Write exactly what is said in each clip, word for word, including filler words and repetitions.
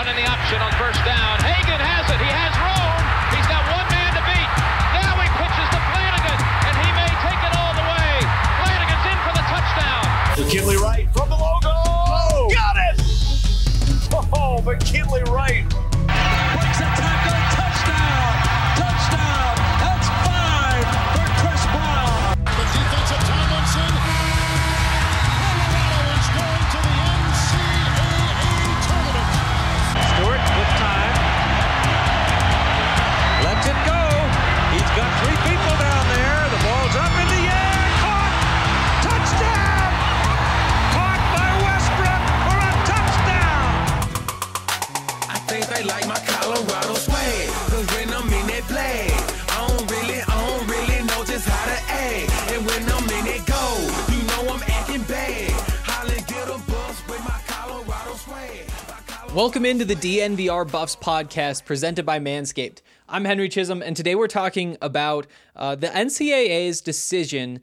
in the option on first down. Hagan has it. He has room. He's got one man to beat. Now he pitches to Flanagan, and he may take it all the way. Flanagan's in for the touchdown. McKinley Wright from the logo. Oh, got it! Oh, McKinley Wright. Breaks a tackle. Touchdown. Touchdown. That's five for Chris Brown. The defensive Tomlinson. Colorado is going to the N C double A tournament. Stewart with time. Lets it go. He's got three people down there. The ball's up in the air. Caught. Touchdown. Caught by Westbrook for a touchdown. I think they like my Colorado swag. Cause when I'm in that play, I don't really, I don't really know just how to act. And when I'm in it go, you know I'm acting bad. Holland get a bus with my Colorado swag. Welcome into the D N V R Buffs podcast presented by Manscaped. I'm Henry Chisholm, and today we're talking about uh, the N C double A's decision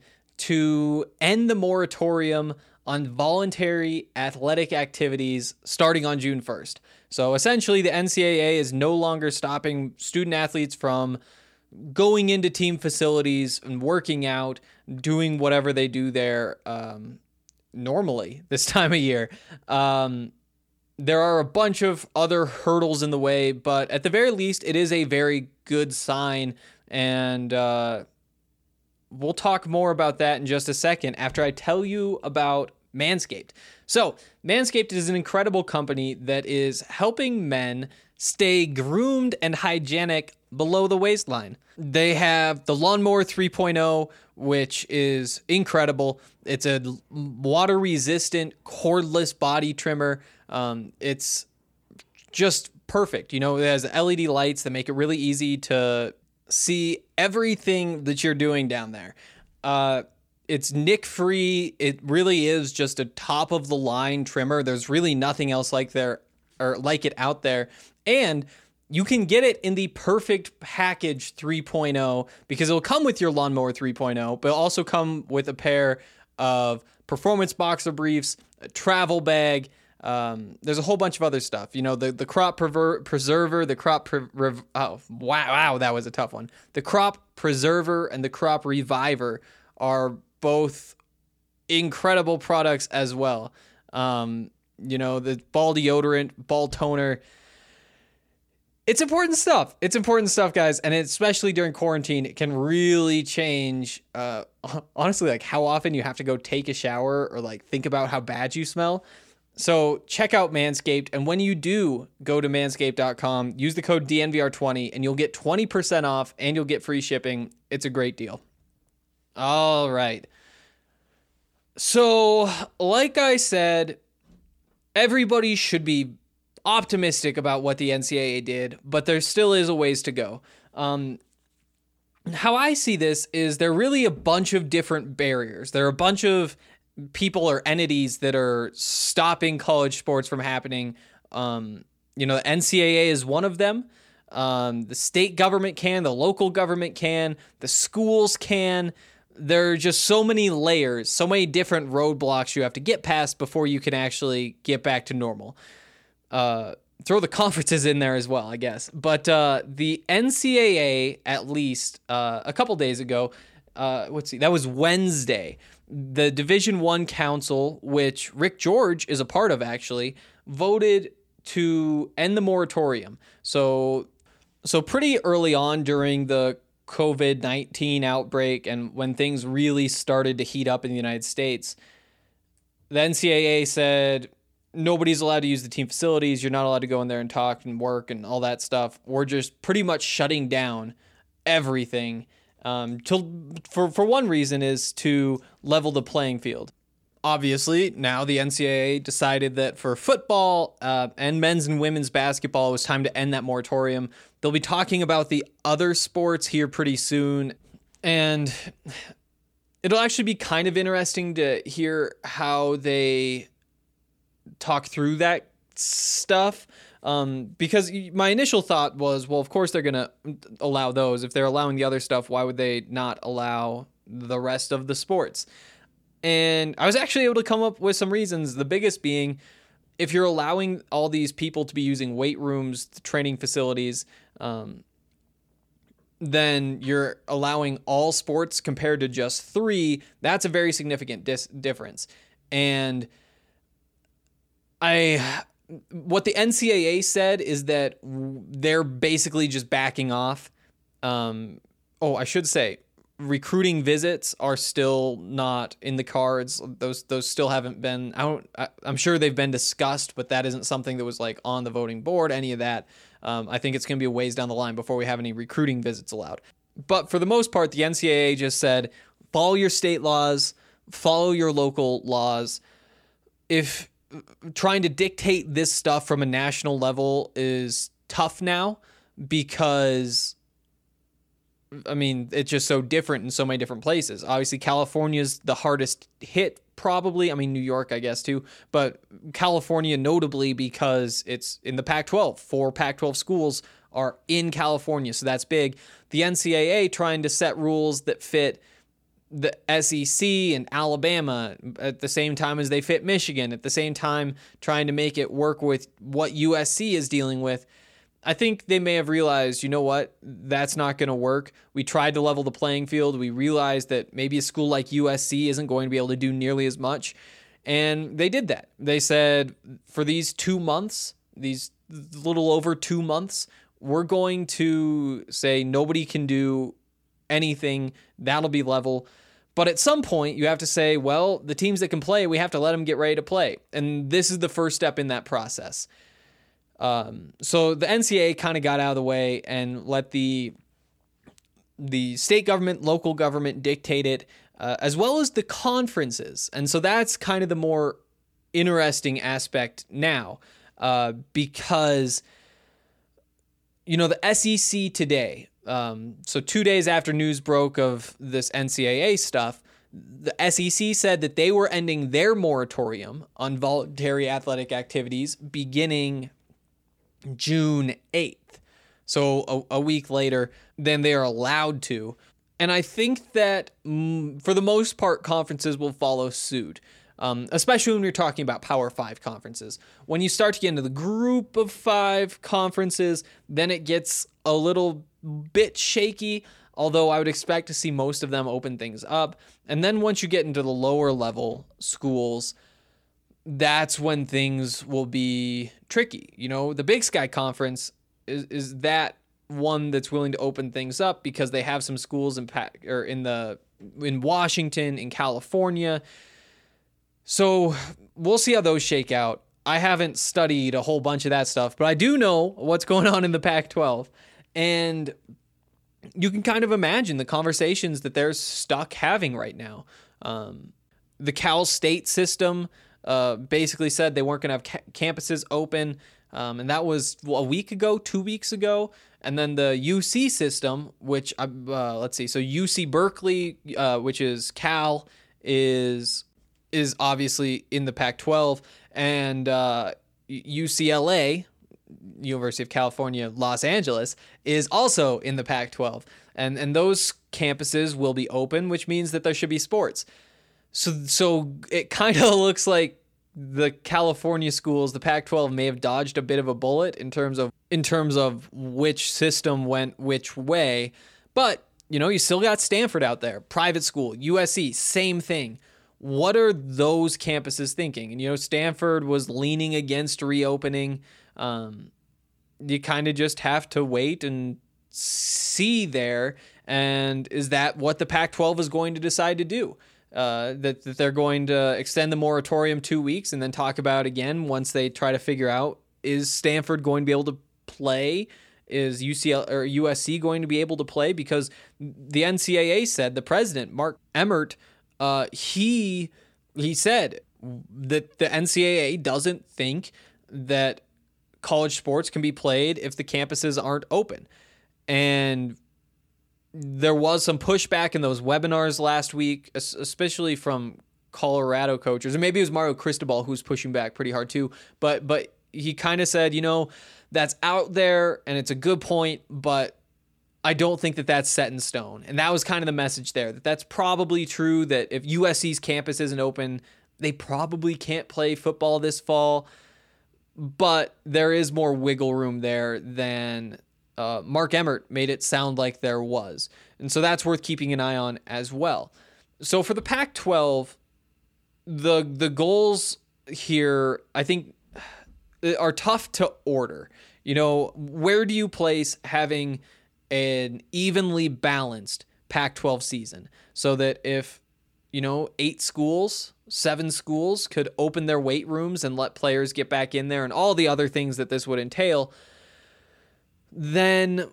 to end the moratorium on voluntary athletic activities starting on June first. So essentially, the N C double A is no longer stopping student athletes from going into team facilities and working out, doing whatever they do there um, normally this time of year. Um, There are a bunch of other hurdles in the way, but at the very least, it is a very good sign, and uh, we'll talk more about that in just a second after I tell you about Manscaped. So, Manscaped is an incredible company that is helping men stay groomed and hygienic below the waistline. They have the Lawnmower three point oh, which is incredible. It's a water-resistant, cordless body trimmer. Um, it's just perfect. You know, it has L E D lights that make it really easy to see everything that you're doing down there. Uh, it's nick-free. It really is just a top-of-the-line trimmer. There's really nothing else like there or like it out there. And you can get it in the perfect package three point oh because it'll come with your Lawnmower three point oh, but it'll also come with a pair of performance boxer briefs, a travel bag. Um, there's a whole bunch of other stuff. You know, the, the crop prever- preserver, the crop, pre- rev- oh, wow, wow, that was a tough one. The crop preserver and the crop reviver are both incredible products as well. Um, you know, the ball deodorant, ball toner. It's important stuff. It's important stuff, guys. And especially during quarantine, it can really change, uh, honestly, like how often you have to go take a shower or like think about how bad you smell. So check out Manscaped, and when you do go to manscaped dot com, use the code D N V R twenty, and you'll get twenty percent off, and you'll get free shipping. It's a great deal. All right. So, like I said, everybody should be optimistic about what the N C double A did, but there still is a ways to go. Um, how I see this is there are really a bunch of different barriers. There are a bunch of people or entities that are stopping college sports from happening. Um, you know, the N C double A is one of them. Um, the state government can, the local government can, the schools can. There are just so many layers, so many different roadblocks you have to get past before you can actually get back to normal. Uh, throw the conferences in there as well, I guess. But uh, the N C double A, at least uh, a couple days ago, uh, let's see, that was Wednesday. The Division One Council, which Rick George is a part of, actually, voted to end the moratorium. So, so pretty early on during the covid nineteen outbreak and when things really started to heat up in the United States, the N C double A said nobody's allowed to use the team facilities. You're not allowed to go in there and talk and work and all that stuff. We're just pretty much shutting down everything. Um, to, for, for one reason is to level the playing field. Obviously, now the N C double A decided that for football uh, and men's and women's basketball, it was time to end that moratorium. They'll be talking about the other sports here pretty soon. And it'll actually be kind of interesting to hear how they talk through that stuff. Um, because my initial thought was, well, of course they're going to allow those. If they're allowing the other stuff, why would they not allow the rest of the sports? And I was actually able to come up with some reasons. The biggest being, if you're allowing all these people to be using weight rooms, training facilities, um, then you're allowing all sports compared to just three. That's a very significant dis- difference. And I, what the N C double A said is that they're basically just backing off. Um, oh, I should say, recruiting visits are still not in the cards. Those those still haven't been. I don't. I, I'm sure they've been discussed, but that isn't something that was like on the voting board. Any of that. Um, I think it's going to be a ways down the line before we have any recruiting visits allowed. But for the most part, the N C double A just said, follow your state laws, follow your local laws. If trying to dictate this stuff from a national level is tough now, because I mean, it's just so different in so many different places. Obviously, California's the hardest hit, probably. I mean, New York, I guess, too. But California, notably, because it's in the Pac twelve. Four Pac twelve schools are in California, so that's big. The N C double A trying to set rules that fit the S E C and Alabama at the same time as they fit Michigan, at the same time trying to make it work with what U S C is dealing with. I think they may have realized, you know what, that's not going to work. We tried to level the playing field. We realized that maybe a school like U S C isn't going to be able to do nearly as much. And they did that. They said, for these two months, these little over two months, we're going to say nobody can do anything. That'll be level. But at some point, you have to say, well, the teams that can play, we have to let them get ready to play. And this is the first step in that process. Um, so the N C double A kind of got out of the way and let the the state government, local government dictate it, uh, as well as the conferences. And so that's kind of the more interesting aspect now, uh, because, you know, the S E C today, um, so two days after news broke of this N C double A stuff, the S E C said that they were ending their moratorium on voluntary athletic activities beginning June eighth. So a, a week later than they are allowed to. And I think that mm, for the most part, conferences will follow suit, um, especially when you're talking about Power Five conferences. When you start to get into the group of five conferences, then it gets a little bit shaky, although I would expect to see most of them open things up. And then once you get into the lower level schools, that's when things will be tricky. You know, the Big Sky Conference is is that one that's willing to open things up because they have some schools in or in the in Washington, in California. So we'll see how those shake out. I haven't studied a whole bunch of that stuff, but I do know what's going on in the Pac twelve. And you can kind of imagine the conversations that they're stuck having right now. Um, the Cal State system Uh, basically said they weren't going to have ca- campuses open, um, and that was well, a week ago, two weeks ago. And then the U C system, which uh, let's see, so U C Berkeley, uh, which is Cal, is is obviously in the Pac twelve, and uh, U C L A, University of California, Los Angeles, is also in the Pac twelve, and and those campuses will be open, which means that there should be sports. So so it kind of looks like the California schools, the Pac twelve, may have dodged a bit of a bullet in terms of in terms of which system went which way. But, you know, you still got Stanford out there, private school, U S C, same thing. What are those campuses thinking? And, you know, Stanford was leaning against reopening. Um, you kind of just have to wait and see there. And is that what the Pac twelve is going to decide to do? Uh, that, that they're going to extend the moratorium two weeks and then talk about again once they try to figure out, is Stanford going to be able to play? Is U C L or U S C going to be able to play? Because the N C double A said, the president, Mark Emmert, uh, he he said that the N C double A doesn't think that college sports can be played if the campuses aren't open. And there was some pushback in those webinars last week, especially from Colorado coaches, or maybe it was Mario Cristobal who was pushing back pretty hard too. But but he kind of said, you know, that's out there and it's a good point, but I don't think that that's set in stone. And that was kind of the message there, that that's probably true, that if U S C's campus isn't open, they probably can't play football this fall. but there is more wiggle room there than uh, Mark Emmert made it sound like there was. And so that's worth keeping an eye on as well. So for the Pac twelve, the the goals here, I think, are tough to order. You know, where do you place having an evenly balanced Pac twelve season so that if, you know, eight schools, seven schools could open their weight rooms and let players get back in there and all the other things that this would entail, then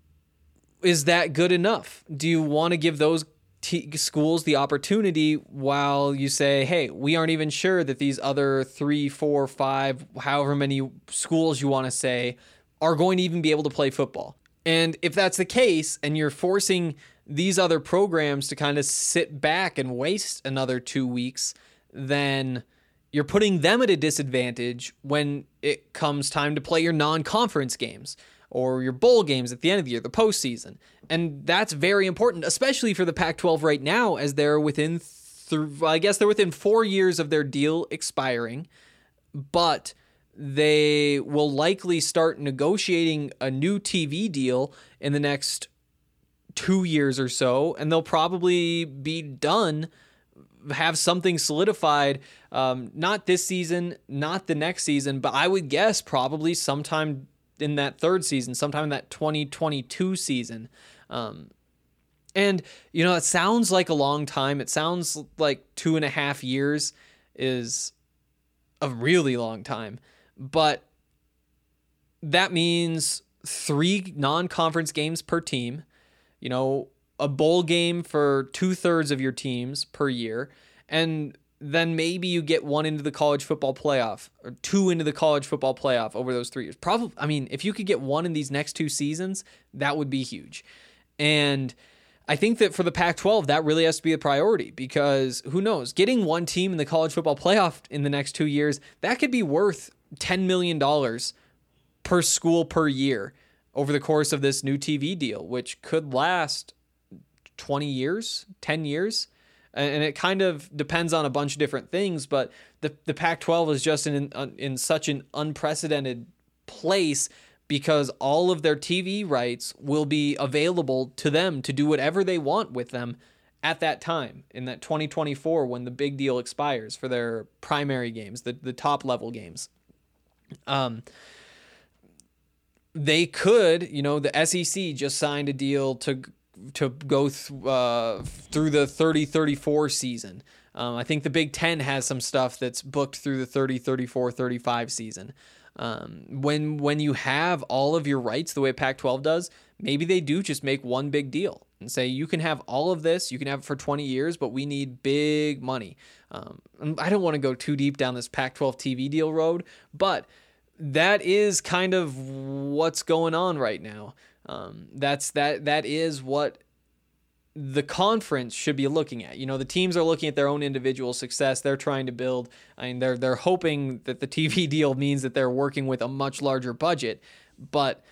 is that good enough? Do you want to give those t- schools the opportunity while you say, hey, we aren't even sure that these other three, four, five, however many schools you want to say are going to even be able to play football? And if that's the case, and you're forcing these other programs to kind of sit back and waste another two weeks, then you're putting them at a disadvantage when it comes time to play your non-conference games or your bowl games at the end of the year, the postseason. And that's very important, especially for the Pac twelve right now, as they're within, th- I guess they're within four years of their deal expiring, but they will likely start negotiating a new T V deal in the next two years or so, and they'll probably be done, have something solidified, um, not this season, not the next season, but I would guess probably sometime in that third season, sometime in that twenty twenty-two season. Um, and, you know, it sounds like a long time. It sounds like two and a half years is a really long time. But that means three non-conference games per team, you know, a bowl game for two-thirds of your teams per year, and then maybe you get one into the college football playoff or two into the college football playoff over those three years. Probably, I mean, if you could get one in these next two seasons, that would be huge. And I think that for the Pac twelve, that really has to be a priority, because who knows, getting one team in the college football playoff in the next two years, that could be worth ten million dollars per school per year over the course of this new T V deal, which could last twenty years, ten years. And it kind of depends on a bunch of different things, but the, the Pac twelve is just in, in such an unprecedented place because all of their T V rights will be available to them to do whatever they want with them at that time, in that twenty twenty-four, when the big deal expires for their primary games, the, the top level games. Um, they could, you know, the S E C just signed a deal to to go th- uh, through the thirty thirty-four season. Um, I think the Big Ten has some stuff that's booked through the thirty thirty-four thirty-five season. Um, when when you have all of your rights the way Pac twelve does, maybe they do just make one big deal and say, you can have all of this, you can have it for twenty years, but we need big money. Um, I don't want to go too deep down this Pac twelve T V deal road, but that is kind of what's going on right now. Um, that's that that is what the conference should be looking at. You know, the teams are looking at their own individual success. They're trying to build. I mean, they're they're hoping that the T V deal means that they're working with a much larger budget, but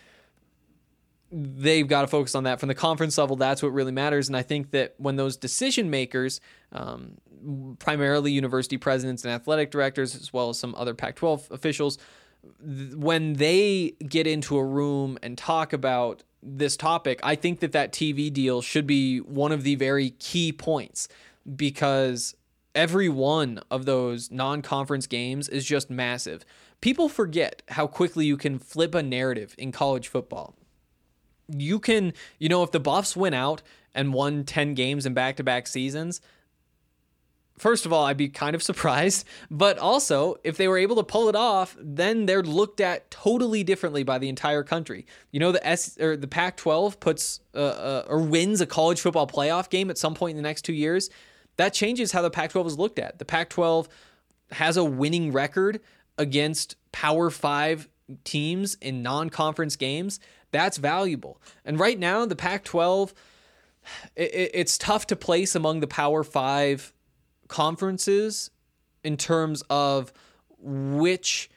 they've got to focus on that from the conference level. That's what really matters. And I think that when those decision makers, um, primarily university presidents and athletic directors, as well as some other Pac twelve officials, when they get into a room and talk about this topic, I think that that T V deal should be one of the very key points, because every one of those non-conference games is just massive. People forget how quickly you can flip a narrative in college football. You can, you know, if the Buffs went out and won ten games in back-to-back seasons, first of all, I'd be kind of surprised, but also if they were able to pull it off, then they're looked at totally differently by the entire country. You know, the S or the Pac twelve puts uh, uh, or wins a college football playoff game at some point in the next two years. That changes how the Pac twelve is looked at. The Pac twelve has a winning record against Power Five teams in non-conference games. That's valuable. And right now, the Pac twelve, it, it's tough to place among the Power Five conferences in terms of which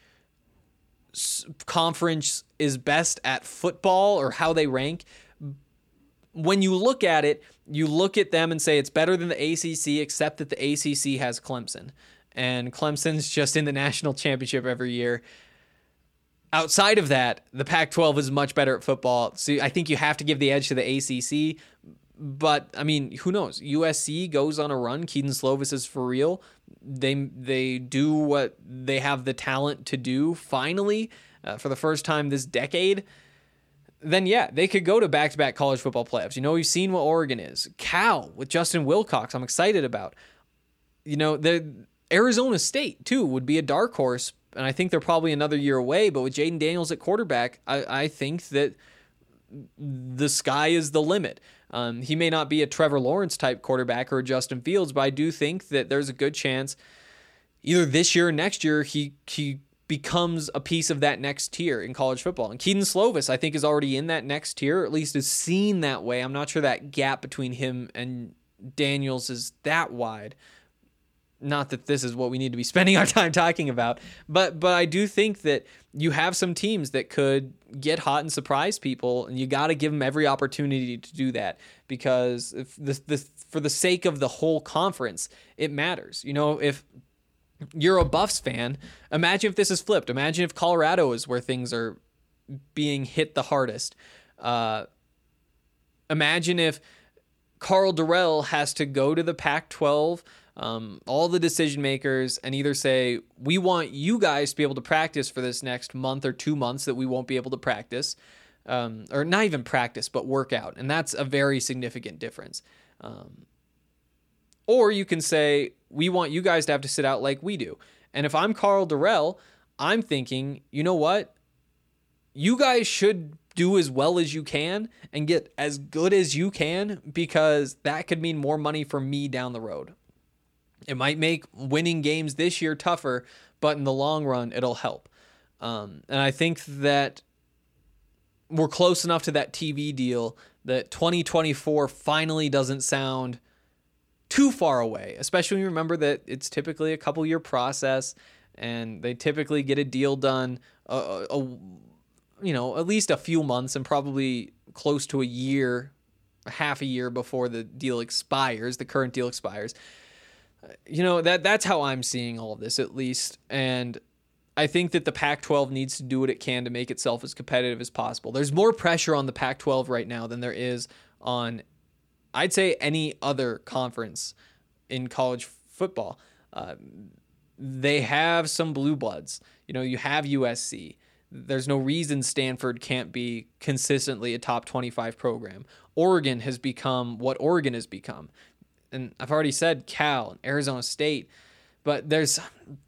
conference is best at football or how they rank. When you look at it, you look at them and say it's better than the A C C, except that the A C C has Clemson, and Clemson's just in the national championship every year. outside of that, the Pac twelve is much better at football. So I think you have to give the edge to the A C C. But, I mean, who knows? U S C goes on a run. Keaton Slovis is for real. They they do what they have the talent to do, finally, uh, for the first time this decade. Then, yeah, they could go to back-to-back college football playoffs. You know, we've seen what Oregon is. Cal with Justin Wilcox, I'm excited about. You know, the Arizona State, too, would be a dark horse, and I think they're probably another year away. But with Jaden Daniels at quarterback, I, I think that the sky is the limit. Um, he may not be a Trevor Lawrence type quarterback or a Justin Fields, but I do think that there's a good chance either this year or next year he he becomes a piece of that next tier in college football. And Keaton Slovis, I think, is already in that next tier, or at least is seen that way. I'm not sure that gap between him and Daniels is that wide. Not that this is what we need to be spending our time talking about, but but I do think that you have some teams that could get hot and surprise people, and you got to give them every opportunity to do that, because if the, the for the sake of the whole conference, it matters. You know, if you're a Buffs fan, imagine if this is flipped. Imagine if Colorado is where things are being hit the hardest. Uh, imagine if Karl Dorrell has to go to the Pac twelve, um, all the decision makers, and either say, we want you guys to be able to practice for this next month or two months that we won't be able to practice, um, or not even practice, but work out. And that's a very significant difference. Um, or you can say, we want you guys to have to sit out like we do. And if I'm Karl Dorrell, I'm thinking, you know what? You guys should do as well as you can and get as good as you can, because that could mean more money for me down the road. It might make winning games this year tougher, but in the long run, it'll help. Um, and I think that we're close enough to that T V deal that twenty twenty-four finally doesn't sound too far away, especially when you remember that it's typically a couple year process and they typically get a deal done, a, a, you know, at least a few months and probably close to a year, half a year before the deal expires, the current deal expires. You know, that that's how I'm seeing all of this, at least. And I think that the Pac twelve needs to do what it can to make itself as competitive as possible. There's more pressure on the Pac twelve right now than there is on, I'd say, any other conference in college football. Uh, they have some blue bloods. You know, you have U S C. There's no reason Stanford can't be consistently a top twenty-five program. Oregon has become what Oregon has become. And I've already said Cal and Arizona State, but there's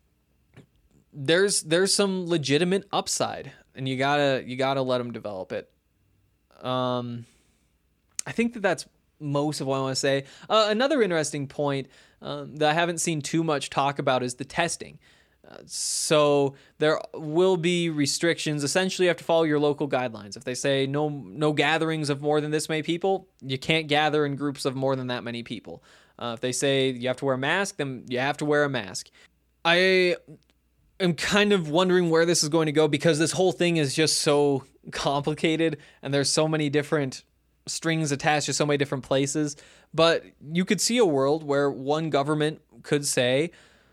there's there's some legitimate upside, and you gotta you gotta let them develop it. Um, I think that that's most of what I want to say. Uh, another interesting point um, that I haven't seen too much talk about is the testing. Uh, so there will be restrictions. Essentially, you have to follow your local guidelines. If they say no no gatherings of more than this many people, you can't gather in groups of more than that many people. Uh, if they say you have to wear a mask, then you have to wear a mask. I am kind of wondering where this is going to go, because this whole thing is just so complicated and there's so many different strings attached to so many different places. But you could see a world where one government could say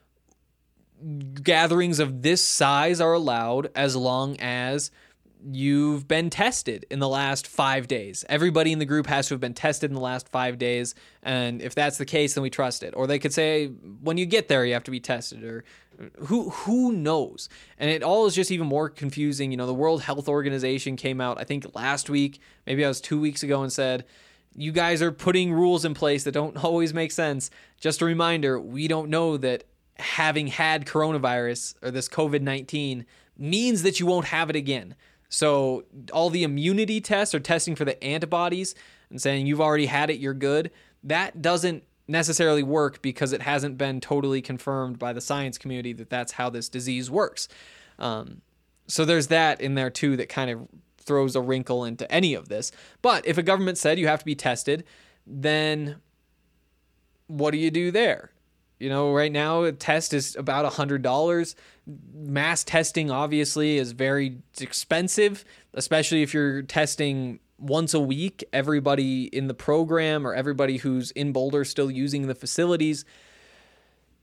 gatherings of this size are allowed as long as you've been tested in the last five days. Everybody in the group has to have been tested in the last five days. And if that's the case, then we trust it. Or they could say, when you get there, you have to be tested, or who, who knows? And it all is just even more confusing. You know, the World Health Organization came out, I think last week, maybe that was two weeks ago, and said, you guys are putting rules in place that don't always make sense. Just a reminder, we don't know that having had coronavirus or this covid nineteen means that you won't have it again. So all the immunity tests or testing for the antibodies and saying you've already had it, you're good, that doesn't necessarily work, because it hasn't been totally confirmed by the science community that that's how this disease works. Um, so there's that in there too that kind of throws a wrinkle into any of this. But if a government said you have to be tested, then what do you do there? You know, right now a test is about one hundred dollars. Mass testing obviously is very expensive, especially if you're testing once a week everybody in the program or everybody who's in Boulder still using the facilities.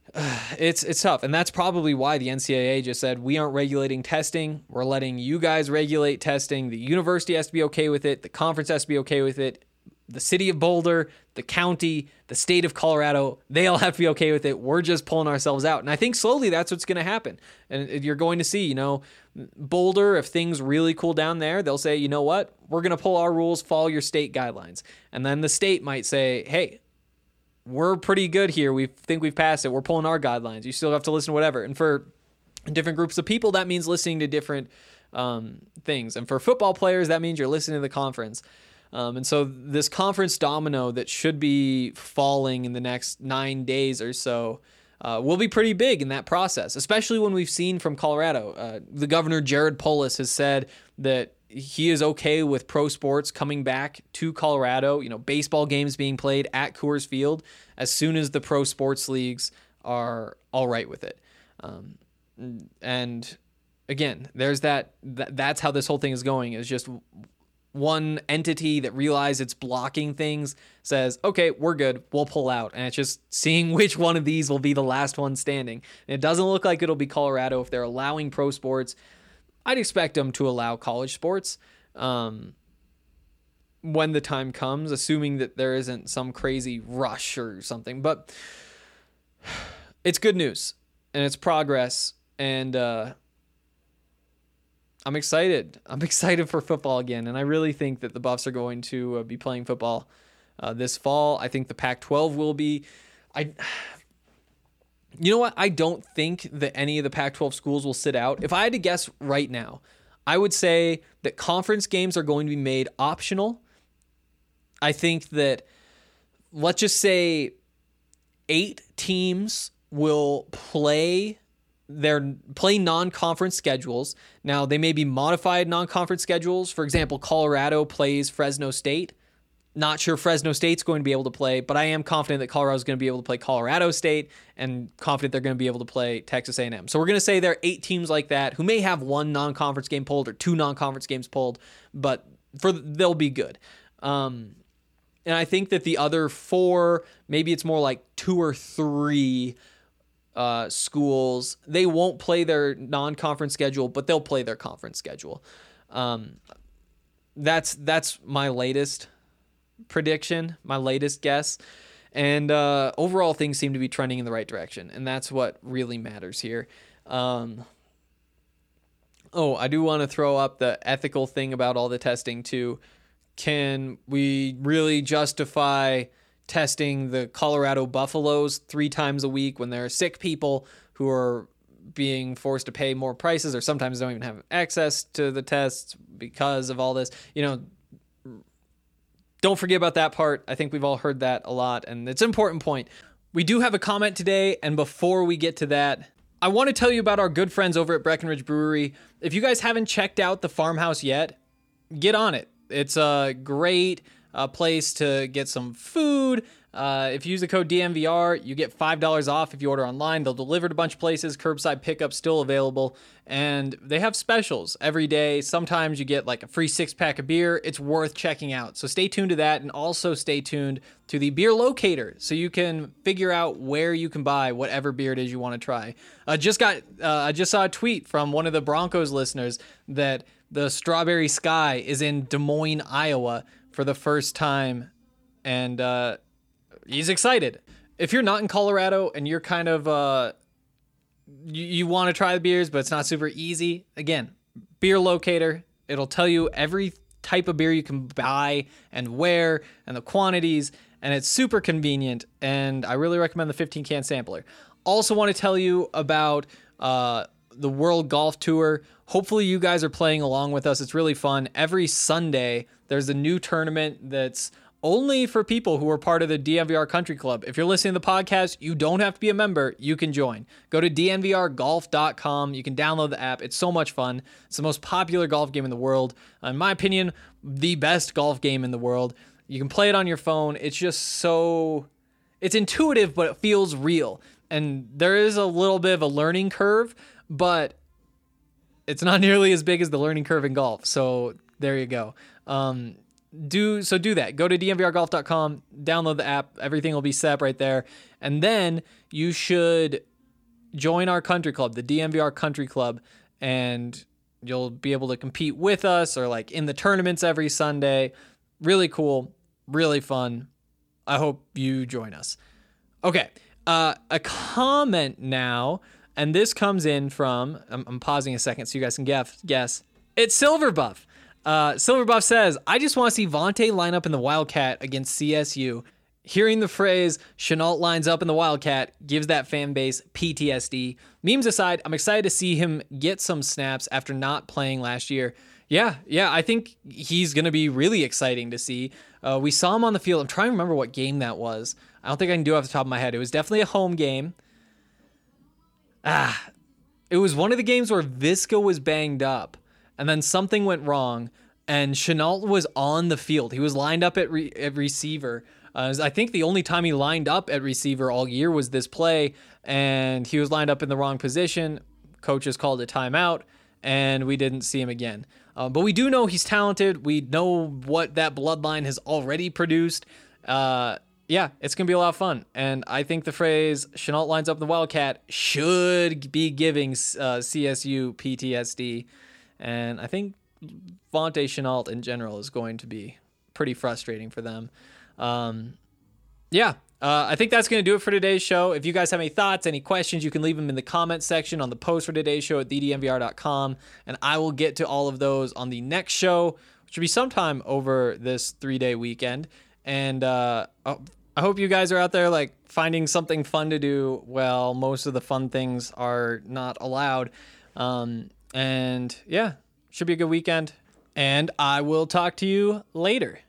it's it's tough. And that's probably why the N C double A just said, we aren't regulating testing. We're letting you guys regulate testing. The university has to be okay with it. The conference has to be okay with it. The city of Boulder, the county, the state of Colorado, they all have to be okay with it. We're just pulling ourselves out. And I think slowly that's what's going to happen. And you're going to see, you know, Boulder, if things really cool down there, they'll say, you know what, we're going to pull our rules, follow your state guidelines. And then the state might say, hey, we're pretty good here. We think we've passed it. We're pulling our guidelines. You still have to listen to whatever. And for different groups of people, that means listening to different um, things. And for football players, that means you're listening to the conference. Um, and so this conference domino that should be falling in the next nine days or so uh, will be pretty big in that process, especially when we've seen from Colorado. Uh, the governor, Jared Polis, has said that he is okay with pro sports coming back to Colorado, you know, baseball games being played at Coors Field as soon as the pro sports leagues are all right with it. Um, and again, there's that, that, that's how this whole thing is going, is just one entity that realizes it's blocking things says, okay, we're good, we'll pull out. And it's just seeing which one of these will be the last one standing. And it doesn't look like it'll be Colorado. If they're allowing pro sports, I'd expect them to allow college sports um, when the time comes, assuming that there isn't some crazy rush or something. But it's good news, and it's progress, and uh, I'm excited. I'm excited for football again, and I really think that the Buffs are going to uh, be playing football uh, this fall. I think the Pac twelve will be. I, you know what? I don't think that any of the Pac twelve schools will sit out. If I had to guess right now, I would say that conference games are going to be made optional. I think that, let's just say, eight teams will play They're play non-conference schedules. Now, they may be modified non-conference schedules. For example, Colorado plays Fresno State. Not sure Fresno State's going to be able to play, but I am confident that Colorado's going to be able to play Colorado State, and confident they're going to be able to play Texas A and M. So we're going to say there are eight teams like that who may have one non-conference game pulled or two non-conference games pulled, but for they'll be good. Um, and I think that the other four, maybe it's more like two or three Uh, schools, they won't play their non-conference schedule, but they'll play their conference schedule. Um, that's that's my latest prediction, my latest guess. And uh, overall, things seem to be trending in the right direction, and that's what really matters here. Um, oh, I do want to throw up the ethical thing about all the testing too. Can we really justify testing the Colorado Buffaloes three times a week when there are sick people who are being forced to pay more prices, or sometimes don't even have access to the tests because of all this? You know, don't forget about that part. I think we've all heard that a lot, and it's an important point. We do have a comment today, and before we get to that, I want to tell you about our good friends over at Breckenridge Brewery. If you guys haven't checked out the farmhouse yet, get on it. It's a great a place to get some food. Uh, if you use the code D M V R, you get five dollars off if you order online. They'll deliver to a bunch of places. Curbside pickup still available. And they have specials every day. Sometimes you get like a free six pack of beer. It's worth checking out. So stay tuned to that, and also stay tuned to the beer locator so you can figure out where you can buy whatever beer it is you want to try. I just got, uh, I just saw a tweet from one of the Broncos listeners that the Strawberry Sky is in Des Moines, Iowa for the first time, and uh, he's excited. If you're not in Colorado and you're kind of, uh, you, you want to try the beers, but it's not super easy, again, beer locator. It'll tell you every type of beer you can buy and where and the quantities, and it's super convenient, and I really recommend the fifteen can sampler. Also want to tell you about uh, the World Golf Tour. Hopefully you guys are playing along with us. It's really fun. Every Sunday, there's a new tournament that's only for people who are part of the D N V R Country Club. If you're listening to the podcast, you don't have to be a member. You can join. Go to D N V R golf dot com. You can download the app. It's so much fun. It's the most popular golf game in the world. In my opinion, the best golf game in the world. You can play it on your phone. It's just so... It's intuitive, but it feels real. And there is a little bit of a learning curve, but it's not nearly as big as the learning curve in golf. So there you go. Um, do so do that. Go to d n v r golf dot com, download the app. Everything will be set up right there. And then you should join our country club, the D N V R Country Club, and you'll be able to compete with us or like in the tournaments every Sunday. Really cool, really fun. I hope you join us. Okay, uh, a comment now, and this comes in from, I'm, I'm pausing a second so you guys can guess. guess. It's Silverbuff. Uh, Silverbuff says, I just want to see Vontae line up in the Wildcat against C S U. Hearing the phrase, Shenault lines up in the Wildcat, gives that fan base P T S D. Memes aside, I'm excited to see him get some snaps after not playing last year. Yeah, yeah, I think he's going to be really exciting to see. Uh, we saw him on the field. I'm trying to remember what game that was. I don't think I can do it off the top of my head. It was definitely a home game. Ah, it was one of the games where Visca was banged up, and then something went wrong, and Shenault was on the field. He was lined up at, re- at receiver. Uh, I think the only time he lined up at receiver all year was this play, and he was lined up in the wrong position. Coaches called a timeout, and we didn't see him again. Uh, but we do know he's talented. We know what that bloodline has already produced. Uh, yeah, it's going to be a lot of fun. And I think the phrase, Shenault lines up in the Wildcat, should be giving uh, C S U P T S D. And I think Vontae Shenault in general is going to be pretty frustrating for them. Um, yeah, uh, I think that's going to do it for today's show. If you guys have any thoughts, any questions, you can leave them in the comments section on the post for today's show at the d n v r dot com, and I will get to all of those on the next show, which will be sometime over this three-day weekend. And uh, I hope you guys are out there like finding something fun to do. Well, most of the fun things are not allowed. Um, and yeah, should be a good weekend. And I will talk to you later.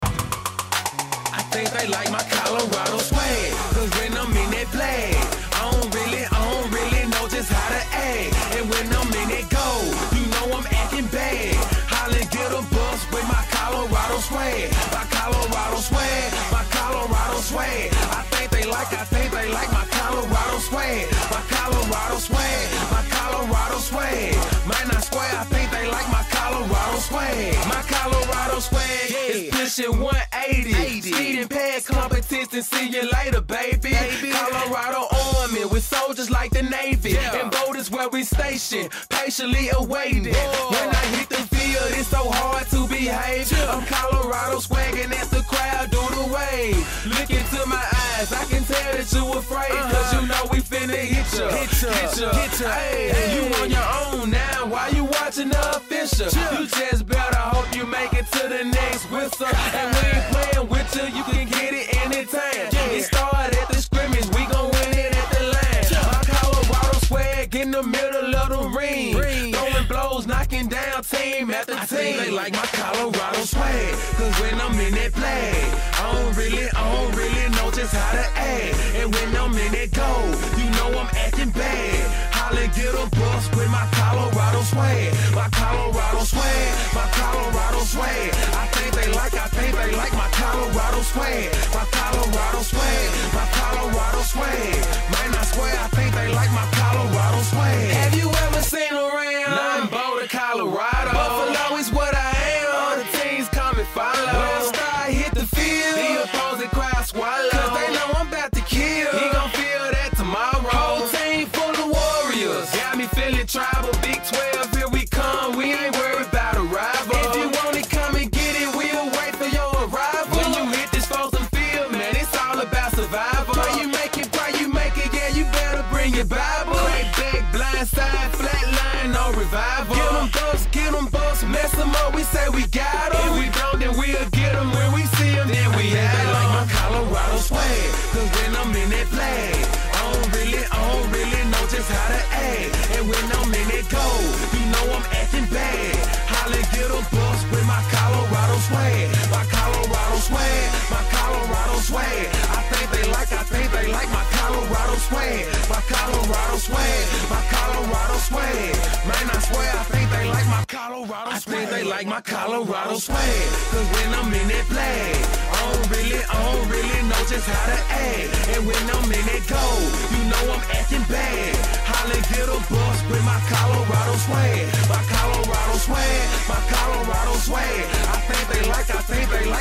I think they like my Colorado swag, cause when I'm in that flag, I don't really, I don't really know just how to act. And when I'm in that gold, you know I'm acting bad. Holla, get a bus with my Colorado swag, my Colorado swag, my Colorado swag. I think they like, I think they like my Colorado swag, my Colorado swag, my Colorado swag. Man, I swear, I think they like my Colorado swag, my Colorado swag is pushing one eighty. Speeding past competition, see you later, baby. baby. Colorado Army with soldiers like the Navy. Yeah. And boat is where we station, patiently awaiting. Whoa. When I hit the field, it's so hard to behave. Yeah. I'm Colorado swagging as the crowd do the wave. Look into my eyes, I can tell that you afraid. Uh-huh. Cause you know we finna hit ya, hit ya, hit ya, hit ya. Hey, hey. You on your own now, why you watching the official? Yeah. You just better hope you make it to the next whistle. And we ain't playing with you, you can get it anytime. Yeah. It started at the scrimmage, we gon' win it at the line. Yeah. My Colorado swag in the middle of the ring. ring. Throwing blows, knocking down team after I team. Think they like my Colorado swag, cause when I'm in that flag, I don't really, I don't really know just how to act. And when I'm in that gold, you know I'm acting bad. Holla, get a bus with my Colorado swag, my Colorado swag, my Colorado swag. I think they like, I think they like my Colorado swag, my Colorado swag, my Colorado swag. Man, I swear, I think they like my Colorado swag. Have you ever seen around? Nothing Boulder, Colorado. Buffalo is what I am. All the teams come and follow. When I start hit the field, the opposing crowd swallow. Cause they know I'm about to kill. He gon' feel that tomorrow. Whole team full of warriors. Got me feeling tribal. Big twelve, here we come. We ain't worried about a rival. If you want it, come and get it. We'll wait for your arrival. When you hit this frozen field, man, it's all about survival. Why you make it, why you make it, yeah, you better bring your Bible. Crack back, blind side, flat line, no revival. Get them busts, get them busts, mess them up, we say we got them. If we don't, then we'll get them. When we see them, then we have them. Like my Colorado swag, cause when I'm in that flag, I don't really, I don't really know just how to act. And when I'm in that gold, you know I'm acting bad. Holla, get a bus with my Colorado swag, my Colorado swag, my Colorado swag. I think they like, I think they like my Colorado swag, my Colorado swag, my Colorado swag. Man, I swear, I think they like my Colorado swag. I think they like my Colorado swag, cause when I'm in that flag, I don't really, I don't really know just how to act. And when I'm in that gold, you know I'm acting bad. Holla, get a bus with my Colorado swag, my Colorado swag, my Colorado swag. I think they like, I think they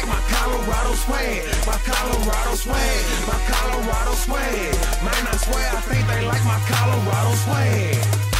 like my Colorado swag, my Colorado swag, my Colorado swag. Man, I swear I think they like my Colorado swag.